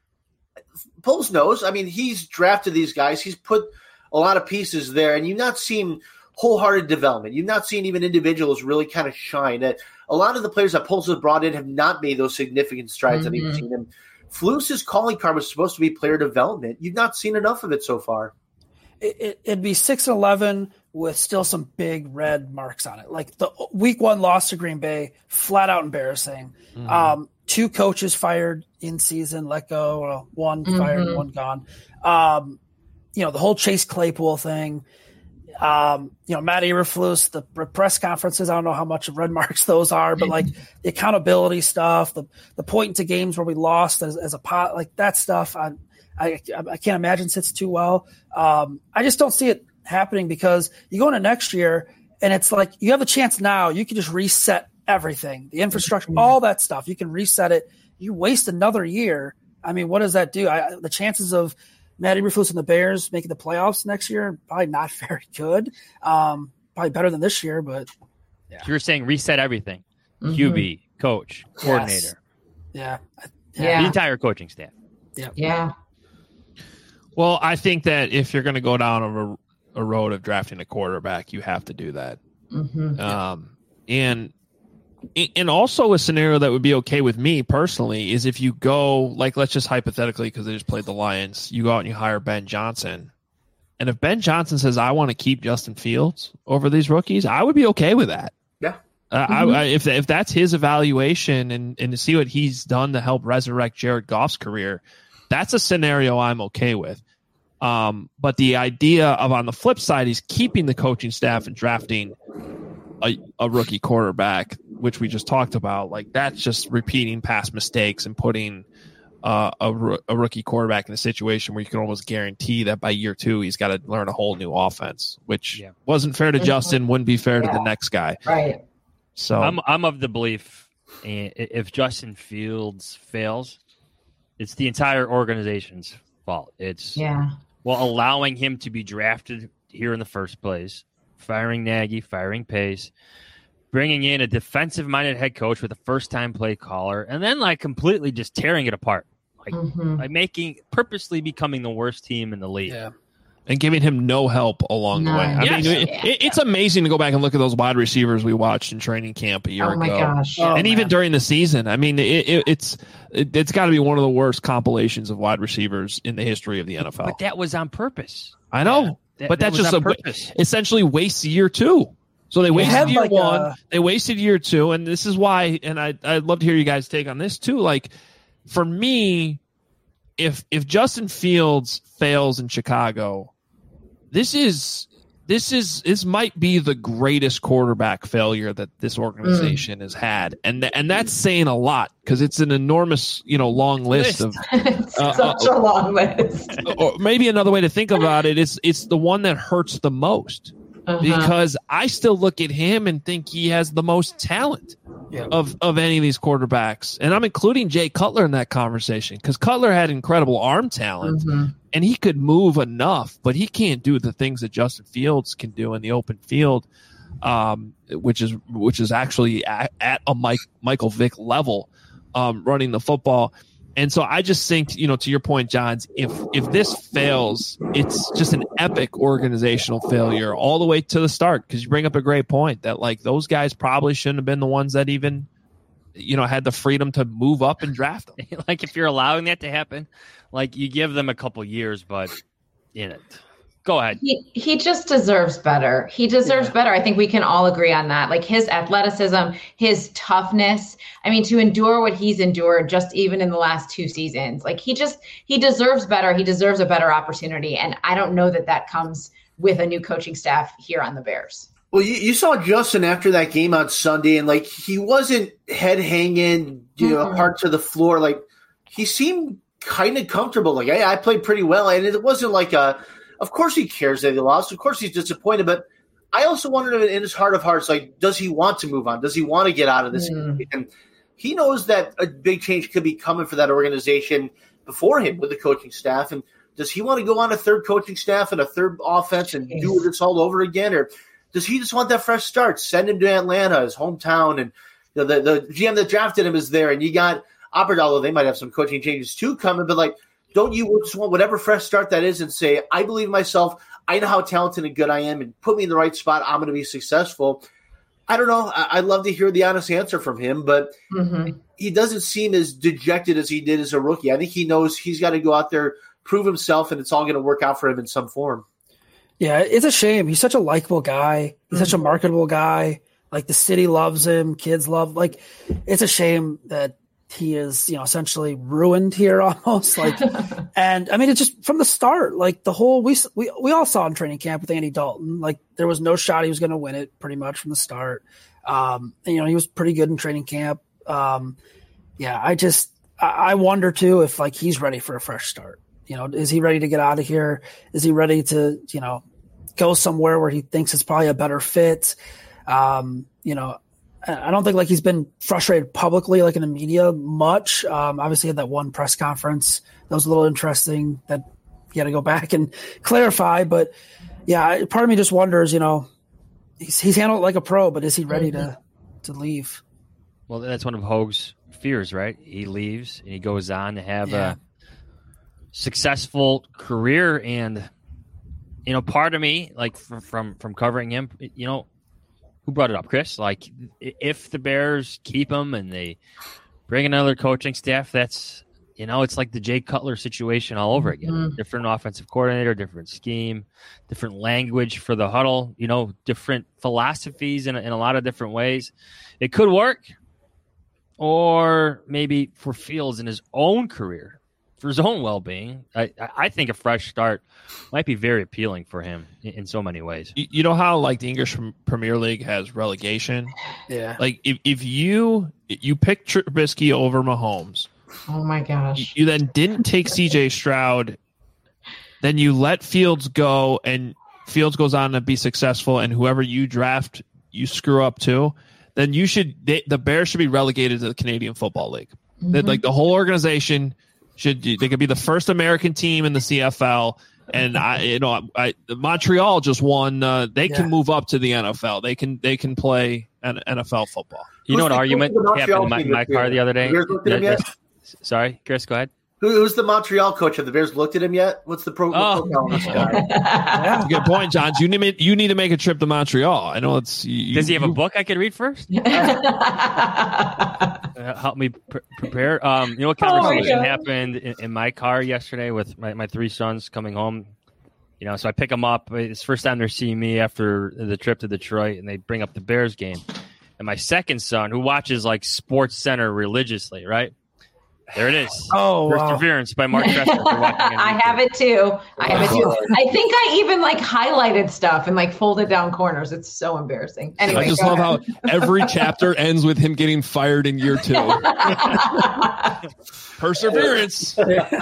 Poles knows. I mean, he's drafted these guys. He's put a lot of pieces there, and you've not seen wholehearted development. You've not seen even individuals really kind of shine. That a lot of the players that Poles has brought in have not made those significant strides mm-hmm. that he's seen them. Flus's calling card was supposed to be player development. You've not seen enough of it so far. It, it, it'd be six and eleven with still some big red marks on it. Like the week one loss to Green Bay, flat out embarrassing. Mm-hmm. Um, two coaches fired in season, let go, well, one mm-hmm. fired, one gone. Um, you know, the whole Chase Claypool thing. Um, you know, Matt Eberflus, the press conferences, I don't know how much red marks those are, but like the accountability stuff, the the point into games where we lost as, as a pot, like that stuff, I, I I can't imagine sits too well. Um, I just don't see it happening because you go into next year and it's like you have a chance now. You can just reset everything, the infrastructure, mm-hmm. all that stuff. You can reset it. You waste another year. I mean, what does that do? I, the chances of Matt Eberflus and the Bears making the playoffs next year, probably not very good. Um, probably better than this year, but yeah. You're saying reset everything. Mm-hmm. Q B, coach, coordinator. Yes. Yeah. yeah. The entire coaching staff. Yeah. Yeah. Well, I think that if you're going to go down a, a road of drafting a quarterback, you have to do that. Mm-hmm. Um, and and also a scenario that would be okay with me personally is if you go, like, let's just hypothetically, because they just played the Lions, you go out and you hire Ben Johnson. And if Ben Johnson says, I want to keep Justin Fields over these rookies, I would be okay with that. Yeah. Uh, mm-hmm. I, I, if if that's his evaluation and, and to see what he's done to help resurrect Jared Goff's career, that's a scenario I'm okay with. Um, but the idea of on the flip side, he's keeping the coaching staff and drafting a, a rookie quarterback, which we just talked about, like that's just repeating past mistakes and putting uh, a, a rookie quarterback in a situation where you can almost guarantee that by year two he's got to learn a whole new offense, which yeah. wasn't fair to Justin, wouldn't be fair yeah. to the next guy. Right. So I'm I'm of the belief if Justin Fields fails, it's the entire organization's fault. It's yeah. well allowing him to be drafted here in the first place, firing Nagy, firing Pace, bringing in a defensive-minded head coach with a first-time play caller, and then like completely just tearing it apart, like, mm-hmm. like making purposely becoming the worst team in the league. Yeah. And giving him no help along no. the way. I yes. mean, it, yeah. it, it's amazing to go back and look at those wide receivers we watched in training camp a year oh my ago, gosh. and Oh, even man. during the season. I mean, it, it, it's it, it's got to be one of the worst compilations of wide receivers in the history of the N F L. But that was on purpose. I know, yeah, that, but that that's just a purpose. essentially wastes year two. So they wasted year like one, a... they wasted year two, and this is why. And I I'd love to hear you guys take on this too. Like for me, if if Justin Fields fails in Chicago, this is this is this might be the greatest quarterback failure that this organization mm. has had, and and that's saying a lot because it's an enormous, you know, long list of it's uh, such uh, a long list. Or maybe another way to think about it is it's the one that hurts the most. Uh-huh. Because I still look at him and think he has the most talent yeah. of, of any of these quarterbacks. And I'm including Jay Cutler in that conversation because Cutler had incredible arm talent mm-hmm. and he could move enough, but he can't do the things that Justin Fields can do in the open field, um, which is which is actually at, at a Mike, Michael Vick level um, running the football. And so I just think, you know, to your point, Johns, if if this fails, it's just an epic organizational failure all the way to the start. Because you bring up a great point that, like, those guys probably shouldn't have been the ones that even, you know, had the freedom to move up and draft them. Like, if you're allowing that to happen, like, you give them a couple years, but in it. Go ahead. He he just deserves better. He deserves yeah. better. I think we can all agree on that. Like his athleticism, his toughness. I mean, to endure what he's endured just even in the last two seasons, like he just, he deserves better. He deserves a better opportunity. And I don't know that that comes with a new coaching staff here on the Bears. Well, you, you saw Justin after that game on Sunday, and like he wasn't head hanging, you know, mm-hmm. hard to the floor. Like he seemed kind of comfortable. Like, hey, I played pretty well. And it wasn't like a, of course he cares that he lost. Of course he's disappointed. But I also wondered in his heart of hearts, like, does he want to move on? Does he want to get out of this? Mm. And he knows that a big change could be coming for that organization before him with the coaching staff. And does he want to go on a third coaching staff and a third offense and Jeez. do this all over again? Or does he just want that fresh start? Send him to Atlanta, his hometown. And you know, the, the G M that drafted him is there. And you got Aberdahl, they might have some coaching changes too coming. But, like, don't you just want whatever fresh start that is and say, I believe in myself. I know how talented and good I am, and put me in the right spot. I'm going to be successful. I don't know. I- I'd love to hear the honest answer from him, but mm-hmm. he doesn't seem as dejected as he did as a rookie. I think he knows he's got to go out there, prove himself, and it's all going to work out for him in some form. Yeah, it's a shame. He's such a likable guy. He's mm-hmm. such a marketable guy. Like, the city loves him. Kids love. Like, it's a shame that he is, you know, essentially ruined here almost. Like, and I mean, it's just from the start, like the whole, we, we, we all saw in training camp with Andy Dalton, like there was no shot he was going to win it pretty much from the start. Um, and, you know, he was pretty good in training camp. Um, yeah, I just, I, I wonder too, if like he's ready for a fresh start. You know, is he ready to get out of here? Is he ready to, you know, go somewhere where he thinks it's probably a better fit? Um, you know, I don't think like he's been frustrated publicly, like in the media much. Um, obviously, he had that one press conference that was a little interesting that he had to go back and clarify. But yeah, part of me just wonders, you know, he's he's handled it like a pro, but is he ready mm-hmm. to to leave? Well, that's one of Hoge's fears, right? He leaves and he goes on to have yeah. a successful career, and you know, part of me, like from from, from covering him, you know. Who brought it up, Chris? Like, if the Bears keep him and they bring another coaching staff, that's, you know, it's like the Jay Cutler situation all over again. Mm-hmm. Different offensive coordinator, different scheme, different language for the huddle, you know, different philosophies in a, in a lot of different ways. It could work, or maybe for Fields in his own career, for his own well-being, I, I think a fresh start might be very appealing for him in, in so many ways. You, you know how like the English Premier League has relegation? Yeah. Like if, if you you pick Trubisky over Mahomes, oh my gosh, you, you then didn't take C J Stroud, then you let Fields go, and Fields goes on to be successful, and whoever you draft, you screw up too. Then you should they, the Bears should be relegated to the Canadian Football League. Mm-hmm. That like the whole organization should they could be the first American team in the C F L. And I, you know, I, Montreal just won. Uh, they yeah. can move up to the N F L. They can they can play an N F L football. You know, an argument happened in my, my car the other day. The yet? Sorry, Chris, go ahead. Who, who's the Montreal coach? Have the Bears looked at him yet? What's the pro? Oh. on this guy? Yeah. Good point, John. You need you need to make a trip to Montreal. I know it's. You, Does he have you, a book I could read first? uh, help me pr- prepare. Um, you know what conversation oh happened in, in my car yesterday with my, my three sons coming home? You know, so I pick them up. It's the first time they're seeing me after the trip to Detroit, and they bring up the Bears game. And my second son, who watches like Sports Center religiously, right? There it is. Oh, Perseverance wow. by Mark Tressler. I have it too. I have it too. I think I even like highlighted stuff and like folded down corners. It's so embarrassing. Anyway, I just love ahead. how every chapter ends with him getting fired in year two. Perseverance.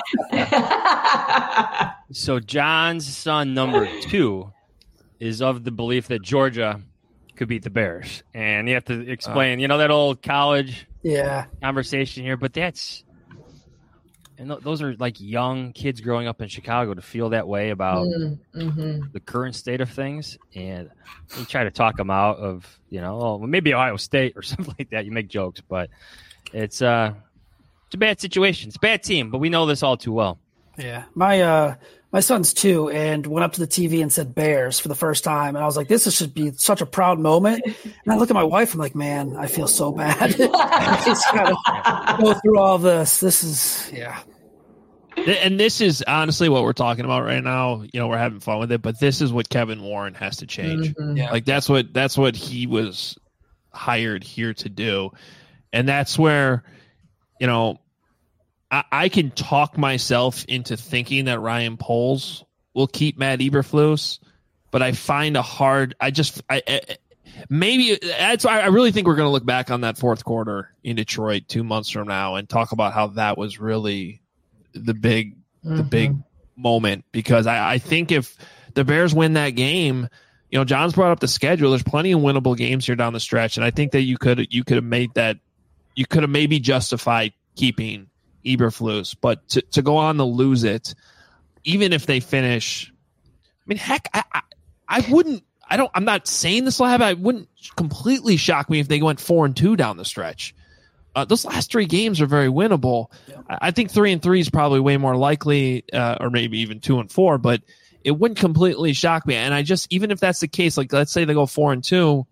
So John's son number two is of the belief that Georgia could beat the Bears, and you have to explain. Uh, you know that old college yeah conversation here, but that's. And th- those are like young kids growing up in Chicago to feel that way about mm-hmm. the current state of things. And you try to talk them out of, you know, oh, well, maybe Ohio State or something like that. You make jokes, but it's, uh, it's a bad situation. It's a bad team, but we know this all too well. Yeah. My, uh, my son's two and went up to the T V and said Bears for the first time. And I was like, this should be such a proud moment. And I look at my wife, I'm like, man, I feel so bad. I just gotta go through all this. This is, yeah. And this is honestly what we're talking about right now. You know, we're having fun with it, but this is what Kevin Warren has to change. Mm-hmm. Yeah. Like that's what, that's what he was hired here to do. And that's where, you know, I, I can talk myself into thinking that Ryan Poles will keep Matt Eberflus, but I find a hard, I just, I, I maybe that's why I really think we're going to look back on that fourth quarter in Detroit two months from now and talk about how that was really the big, mm-hmm. the big moment, because I, I think if the Bears win that game, you know, John's brought up the schedule. There's plenty of winnable games here down the stretch. And I think that you could, you could have made that, you could have maybe justified keeping Eberflus, but to, to go on to lose it, even if they finish, I mean, heck, I, I, I wouldn't, I don't, I'm not saying this will happen. I wouldn't completely shock me if they went four and two down the stretch. Uh, those last three games are very winnable. Yeah. I think three and three is probably way more likely, uh, or maybe even two and four, but it wouldn't completely shock me. And I just, even if that's the case, like let's say they go four and two,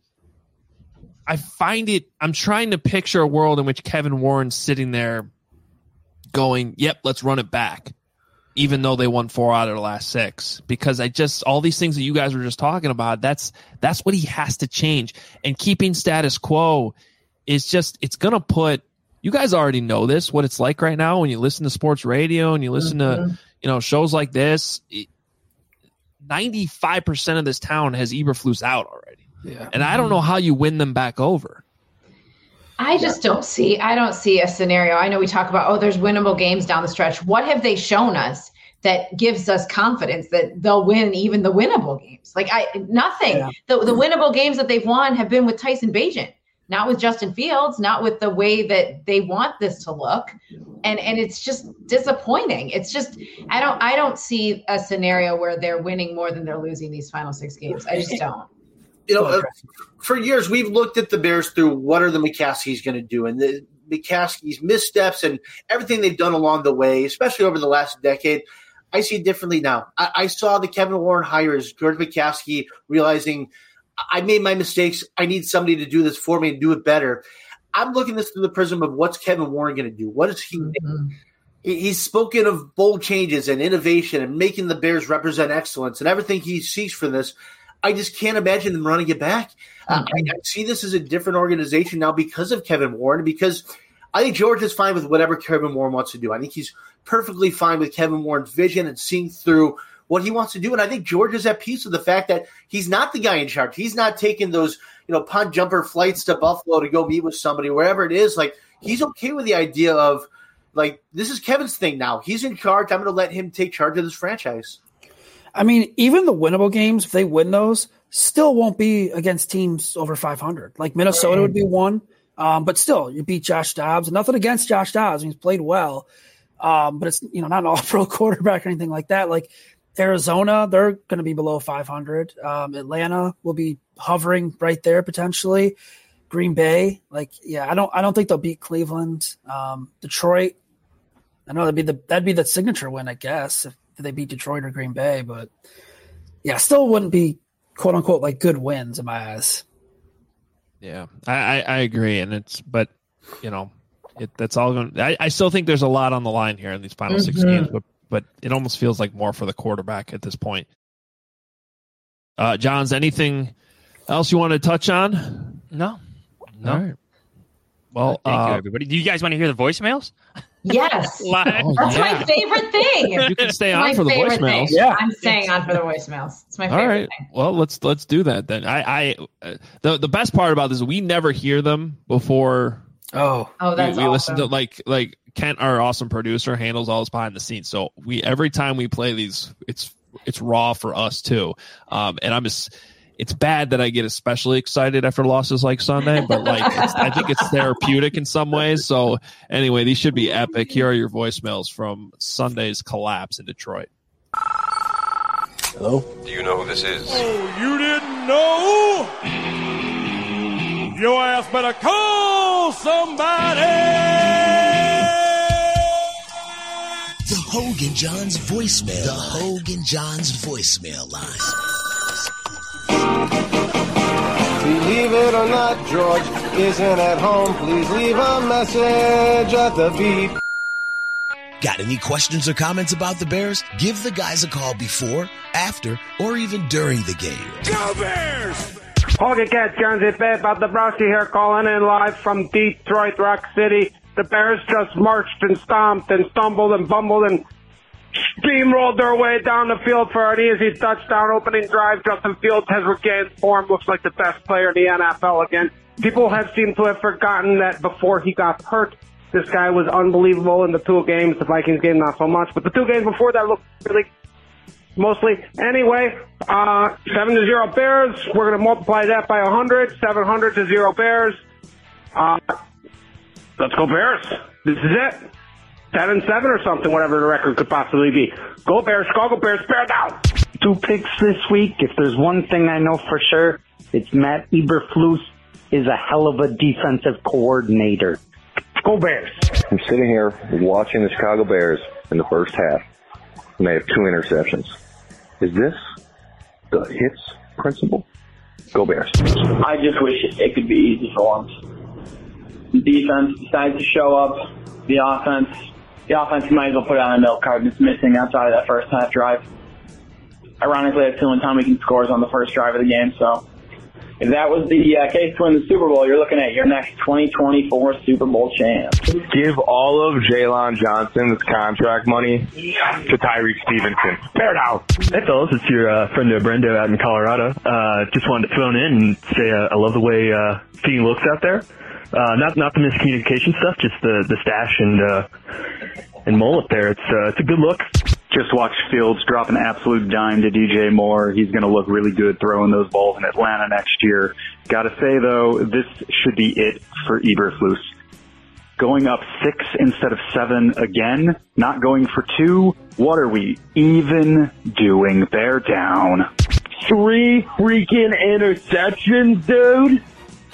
I find it, I'm trying to picture a world in which Kevin Warren's sitting there going, yep, let's run it back, even though they won four out of the last six, because I just, all these things that you guys were just talking about, that's, that's what he has to change. And keeping status quo is just, it's going to put, you guys already know this, what it's like right now when you listen to sports radio and you listen mm-hmm. to, you know, shows like this. It, ninety-five percent of this town has Eberflus out already. Yeah. And I don't know how you win them back over. I just don't see, I don't see a scenario. I know we talk about, oh, there's winnable games down the stretch. What have they shown us that gives us confidence that they'll win even the winnable games? Like I, nothing. Yeah. The, the winnable games that they've won have been with Tyson Bagent, not with Justin Fields, not with the way that they want this to look. And, and it's just disappointing. It's just, I don't, I don't see a scenario where they're winning more than they're losing these final six games. I just don't. You know, uh, for years, we've looked at the Bears through what are the McCaskies going to do, and the McCaskies' missteps and everything they've done along the way, especially over the last decade. I see it differently now. I, I saw the Kevin Warren hires George McCaskey realizing I made my mistakes. I need somebody to do this for me and do it better. I'm looking at this through the prism of what's Kevin Warren going to do? What is he mm-hmm. He's spoken of bold changes and innovation and making the Bears represent excellence and everything he seeks from this. I just can't imagine them running it back. Uh, I, I see this as a different organization now because of Kevin Warren, because I think George is fine with whatever Kevin Warren wants to do. I think he's perfectly fine with Kevin Warren's vision and seeing through what he wants to do. And I think George is at peace with the fact that he's not the guy in charge. He's not taking those, you know, punt jumper flights to Buffalo to go meet with somebody, wherever it is. Like, he's okay with the idea of, like, this is Kevin's thing now. He's in charge. I'm going to let him take charge of this franchise. I mean, even the winnable games, if they win those, still won't be against teams over five hundred. Like Minnesota right. would be one, um, but still, you beat Josh Dobbs. Nothing against Josh Dobbs. He's played well, um, but it's, you know, not an all-pro quarterback or anything like that. Like Arizona, they're going to be below five hundred. Um, Atlanta will be hovering right there potentially. Green Bay, like, yeah, I don't, I don't think they'll beat Cleveland. Um, Detroit, I know that'd be the that'd be the signature win, I guess, if they beat Detroit or Green Bay. But yeah, still wouldn't be quote unquote like good wins in my eyes. Yeah, I, I, I agree, and it's but you know, it that's all going. I, I still think there's a lot on the line here in these final mm-hmm. six games, but but it almost feels like more for the quarterback at this point. Uh, Johns, anything else you want to touch on? No, no. All right. Well, thank uh, you, everybody. Do you guys want to hear the voicemails? Yes. Oh, That's yeah. my favorite thing. You can stay on my for the voicemails. Thing. Yeah, I'm staying on for the voicemails. It's my favorite All right. thing. Well, let's let's do that then. I, I uh, the the best part about this is we never hear them before. Oh, oh, that's we, we awesome. listen to like like Kent, our awesome producer, handles all this behind the scenes. So we every time we play these, it's it's raw for us too. Um, and I'm just. It's bad that I get especially excited after losses like Sunday, but like it's, I think it's therapeutic in some ways. So anyway, these should be epic. Here are your voicemails from Sunday's collapse in Detroit. Hello? Do you know who this is? Oh, you didn't know? Your ass better call somebody! The Hogan Johns voicemail. The Hogan Johns voicemail line. Believe it or not, George isn't at home. Please leave a message at the beep. Got any questions or comments about the Bears? Give the guys a call before, after, or even during the game. Go Bears! Hogan Cat Jones, it's Bad about the Browski here, calling in live from Detroit Rock City. The Bears just marched and stomped and stumbled and bumbled and steamrolled their way down the field for an easy touchdown opening drive. Justin Fields has regained form, looks like the best player in the N F L again. People have seemed to have forgotten that before he got hurt, this guy was unbelievable in the two games. The Vikings game, not so much, but the two games before that looked really mostly. Anyway, uh, seven to zero Bears. We're going to multiply that by one hundred. seven hundred to zero Bears. Uh, let's go Bears. This is it. ten and seven or something, whatever the record could possibly be. Go Bears, Chicago Bears, bear down. Two picks this week. If there's one thing I know for sure, it's Matt Eberflus is a hell of a defensive coordinator. Go Bears. I'm sitting here watching the Chicago Bears in the first half, and they have two interceptions. Is this the hits principle? Go Bears. I just wish it could be easy for them. The defense decides to show up. The offense, the offense might as well put it on a milk card. It's missing outside of that first half drive. Ironically, that's the only time we can score is on the first drive of the game. So if that was the uh, case to win the Super Bowl, you're looking at your next twenty twenty-four Super Bowl champ. Give all of Jalen Johnson's contract money to Tyreek Stevenson. Bear down. Hey, fellas, it's your uh, friend uh, Brendo out in Colorado. Uh, just wanted to phone in and say uh, I love the way uh, Fee looks out there. Uh, not not the miscommunication stuff, just the, the stash and uh, and mullet there. It's uh, it's a good look. Just watch Fields drop an absolute dime to D J Moore. He's going to look really good throwing those balls in Atlanta next year. Got to say, though, this should be it for Eberflus. Going up six instead of seven again, not going for two. What are we even doing? Bear down. Three freaking interceptions, dude?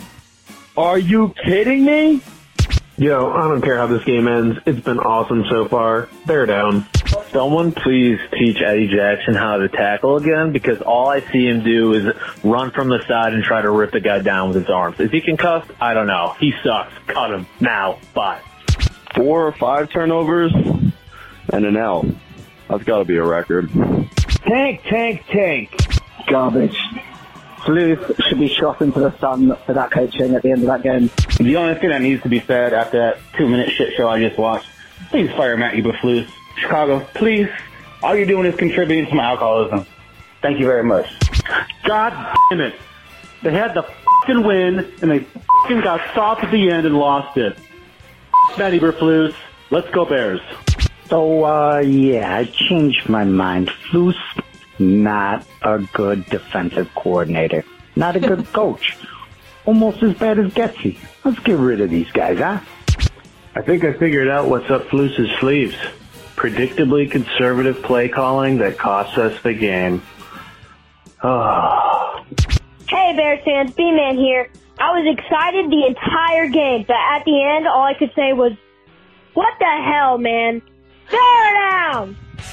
Are you kidding me? Yo, I don't care how this game ends. It's been awesome so far. Bear down. Someone please teach Eddie Jackson how to tackle again, because all I see him do is run from the side and try to rip the guy down with his arms. Is he concussed? I don't know. He sucks. Cut him. Now. Bye. Four or five turnovers and an L. That's got to be a record. Tank, tank, tank. Garbage. Flus should be shot into the sun for that coaching at the end of that game. The only thing that needs to be said after that two-minute shit show I just watched, please fire Matt Eberflus. Chicago, please. All you're doing is contributing to my alcoholism. Thank you very much. God damn it. They had the fucking win, and they fucking got stopped at the end and lost it. Matt Eberflus. Let's go Bears. So, uh, yeah, I changed my mind. Flus, not a good defensive coordinator. Not a good coach. Almost as bad as Getsy. Let's get rid of these guys, huh? I think I figured out what's up Flus's sleeves. Predictably conservative play calling that costs us the game. Oh. Hey, Bears fans, B-Man here. I was excited the entire game, but at the end, all I could say was, what the hell, man? Throw down!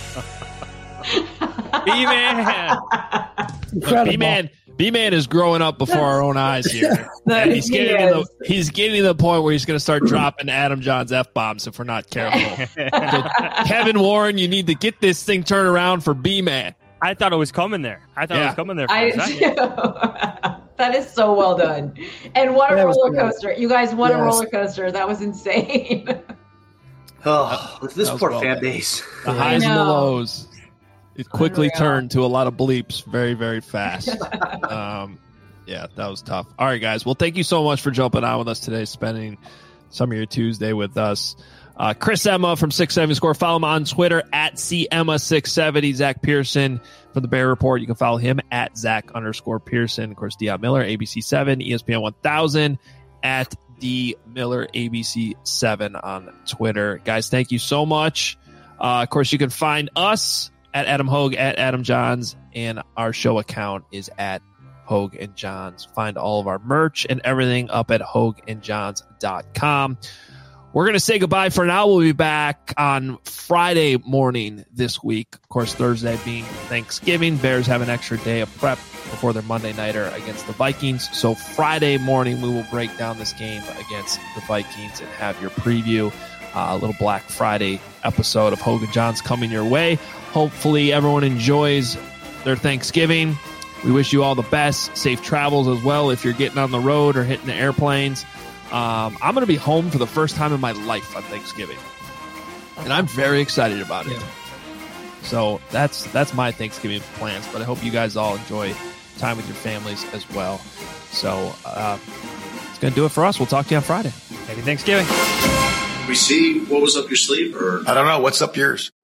B-Man! B-Man, B-Man is growing up before our own eyes here. And he's getting, to the, he's getting to the point where he's going to start dropping Adam John's F-bombs if we're not careful. So, Kevin Warren, you need to get this thing turned around for B-Man. I thought it was coming there. I thought Yeah. it was coming there. For I a second. That is so well done. And what a That was roller good. coaster. You guys, what a Yes. roller coaster. That was insane. Oh, this That was poor well fan done. base. The highs and the know. lows. It quickly Unreal. turned to a lot of bleeps very, very fast. um, yeah, that was tough. All right, guys. Well, thank you so much for jumping on with us today, spending some of your Tuesday with us. Uh, Chris Emma from six seventy Score. Follow him on Twitter at C Emma six seventy. Zach Pearson from the Bear Report. You can follow him at Zach underscore Pearson. Of course, Dion Miller, A B C seven, E S P N one thousand at D Miller A B C seven on Twitter. Guys, thank you so much. Uh, of course, you can find us at Adam Hogue, at Adam Johns, and our show account is at Hogue and Johns. Find all of our merch and everything up at hogue and johns dot com. We're going to say goodbye for now. We'll be back on Friday morning this week. Of course, Thursday being Thanksgiving. Bears have an extra day of prep before their Monday nighter against the Vikings. So Friday morning, we will break down this game against the Vikings and have your preview. Uh, a little Black Friday episode of Hogue and Johns coming your way. Hopefully everyone enjoys their Thanksgiving. We wish you all the best. Safe travels as well if you're getting on the road or hitting the airplanes. Um, I'm going to be home for the first time in my life on Thanksgiving, and I'm very excited about it. So that's that's my Thanksgiving plans, but I hope you guys all enjoy time with your families as well. So uh, it's going to do it for us. We'll talk to you on Friday. Happy Thanksgiving. We see what was up your sleeve, or I don't know. What's up yours?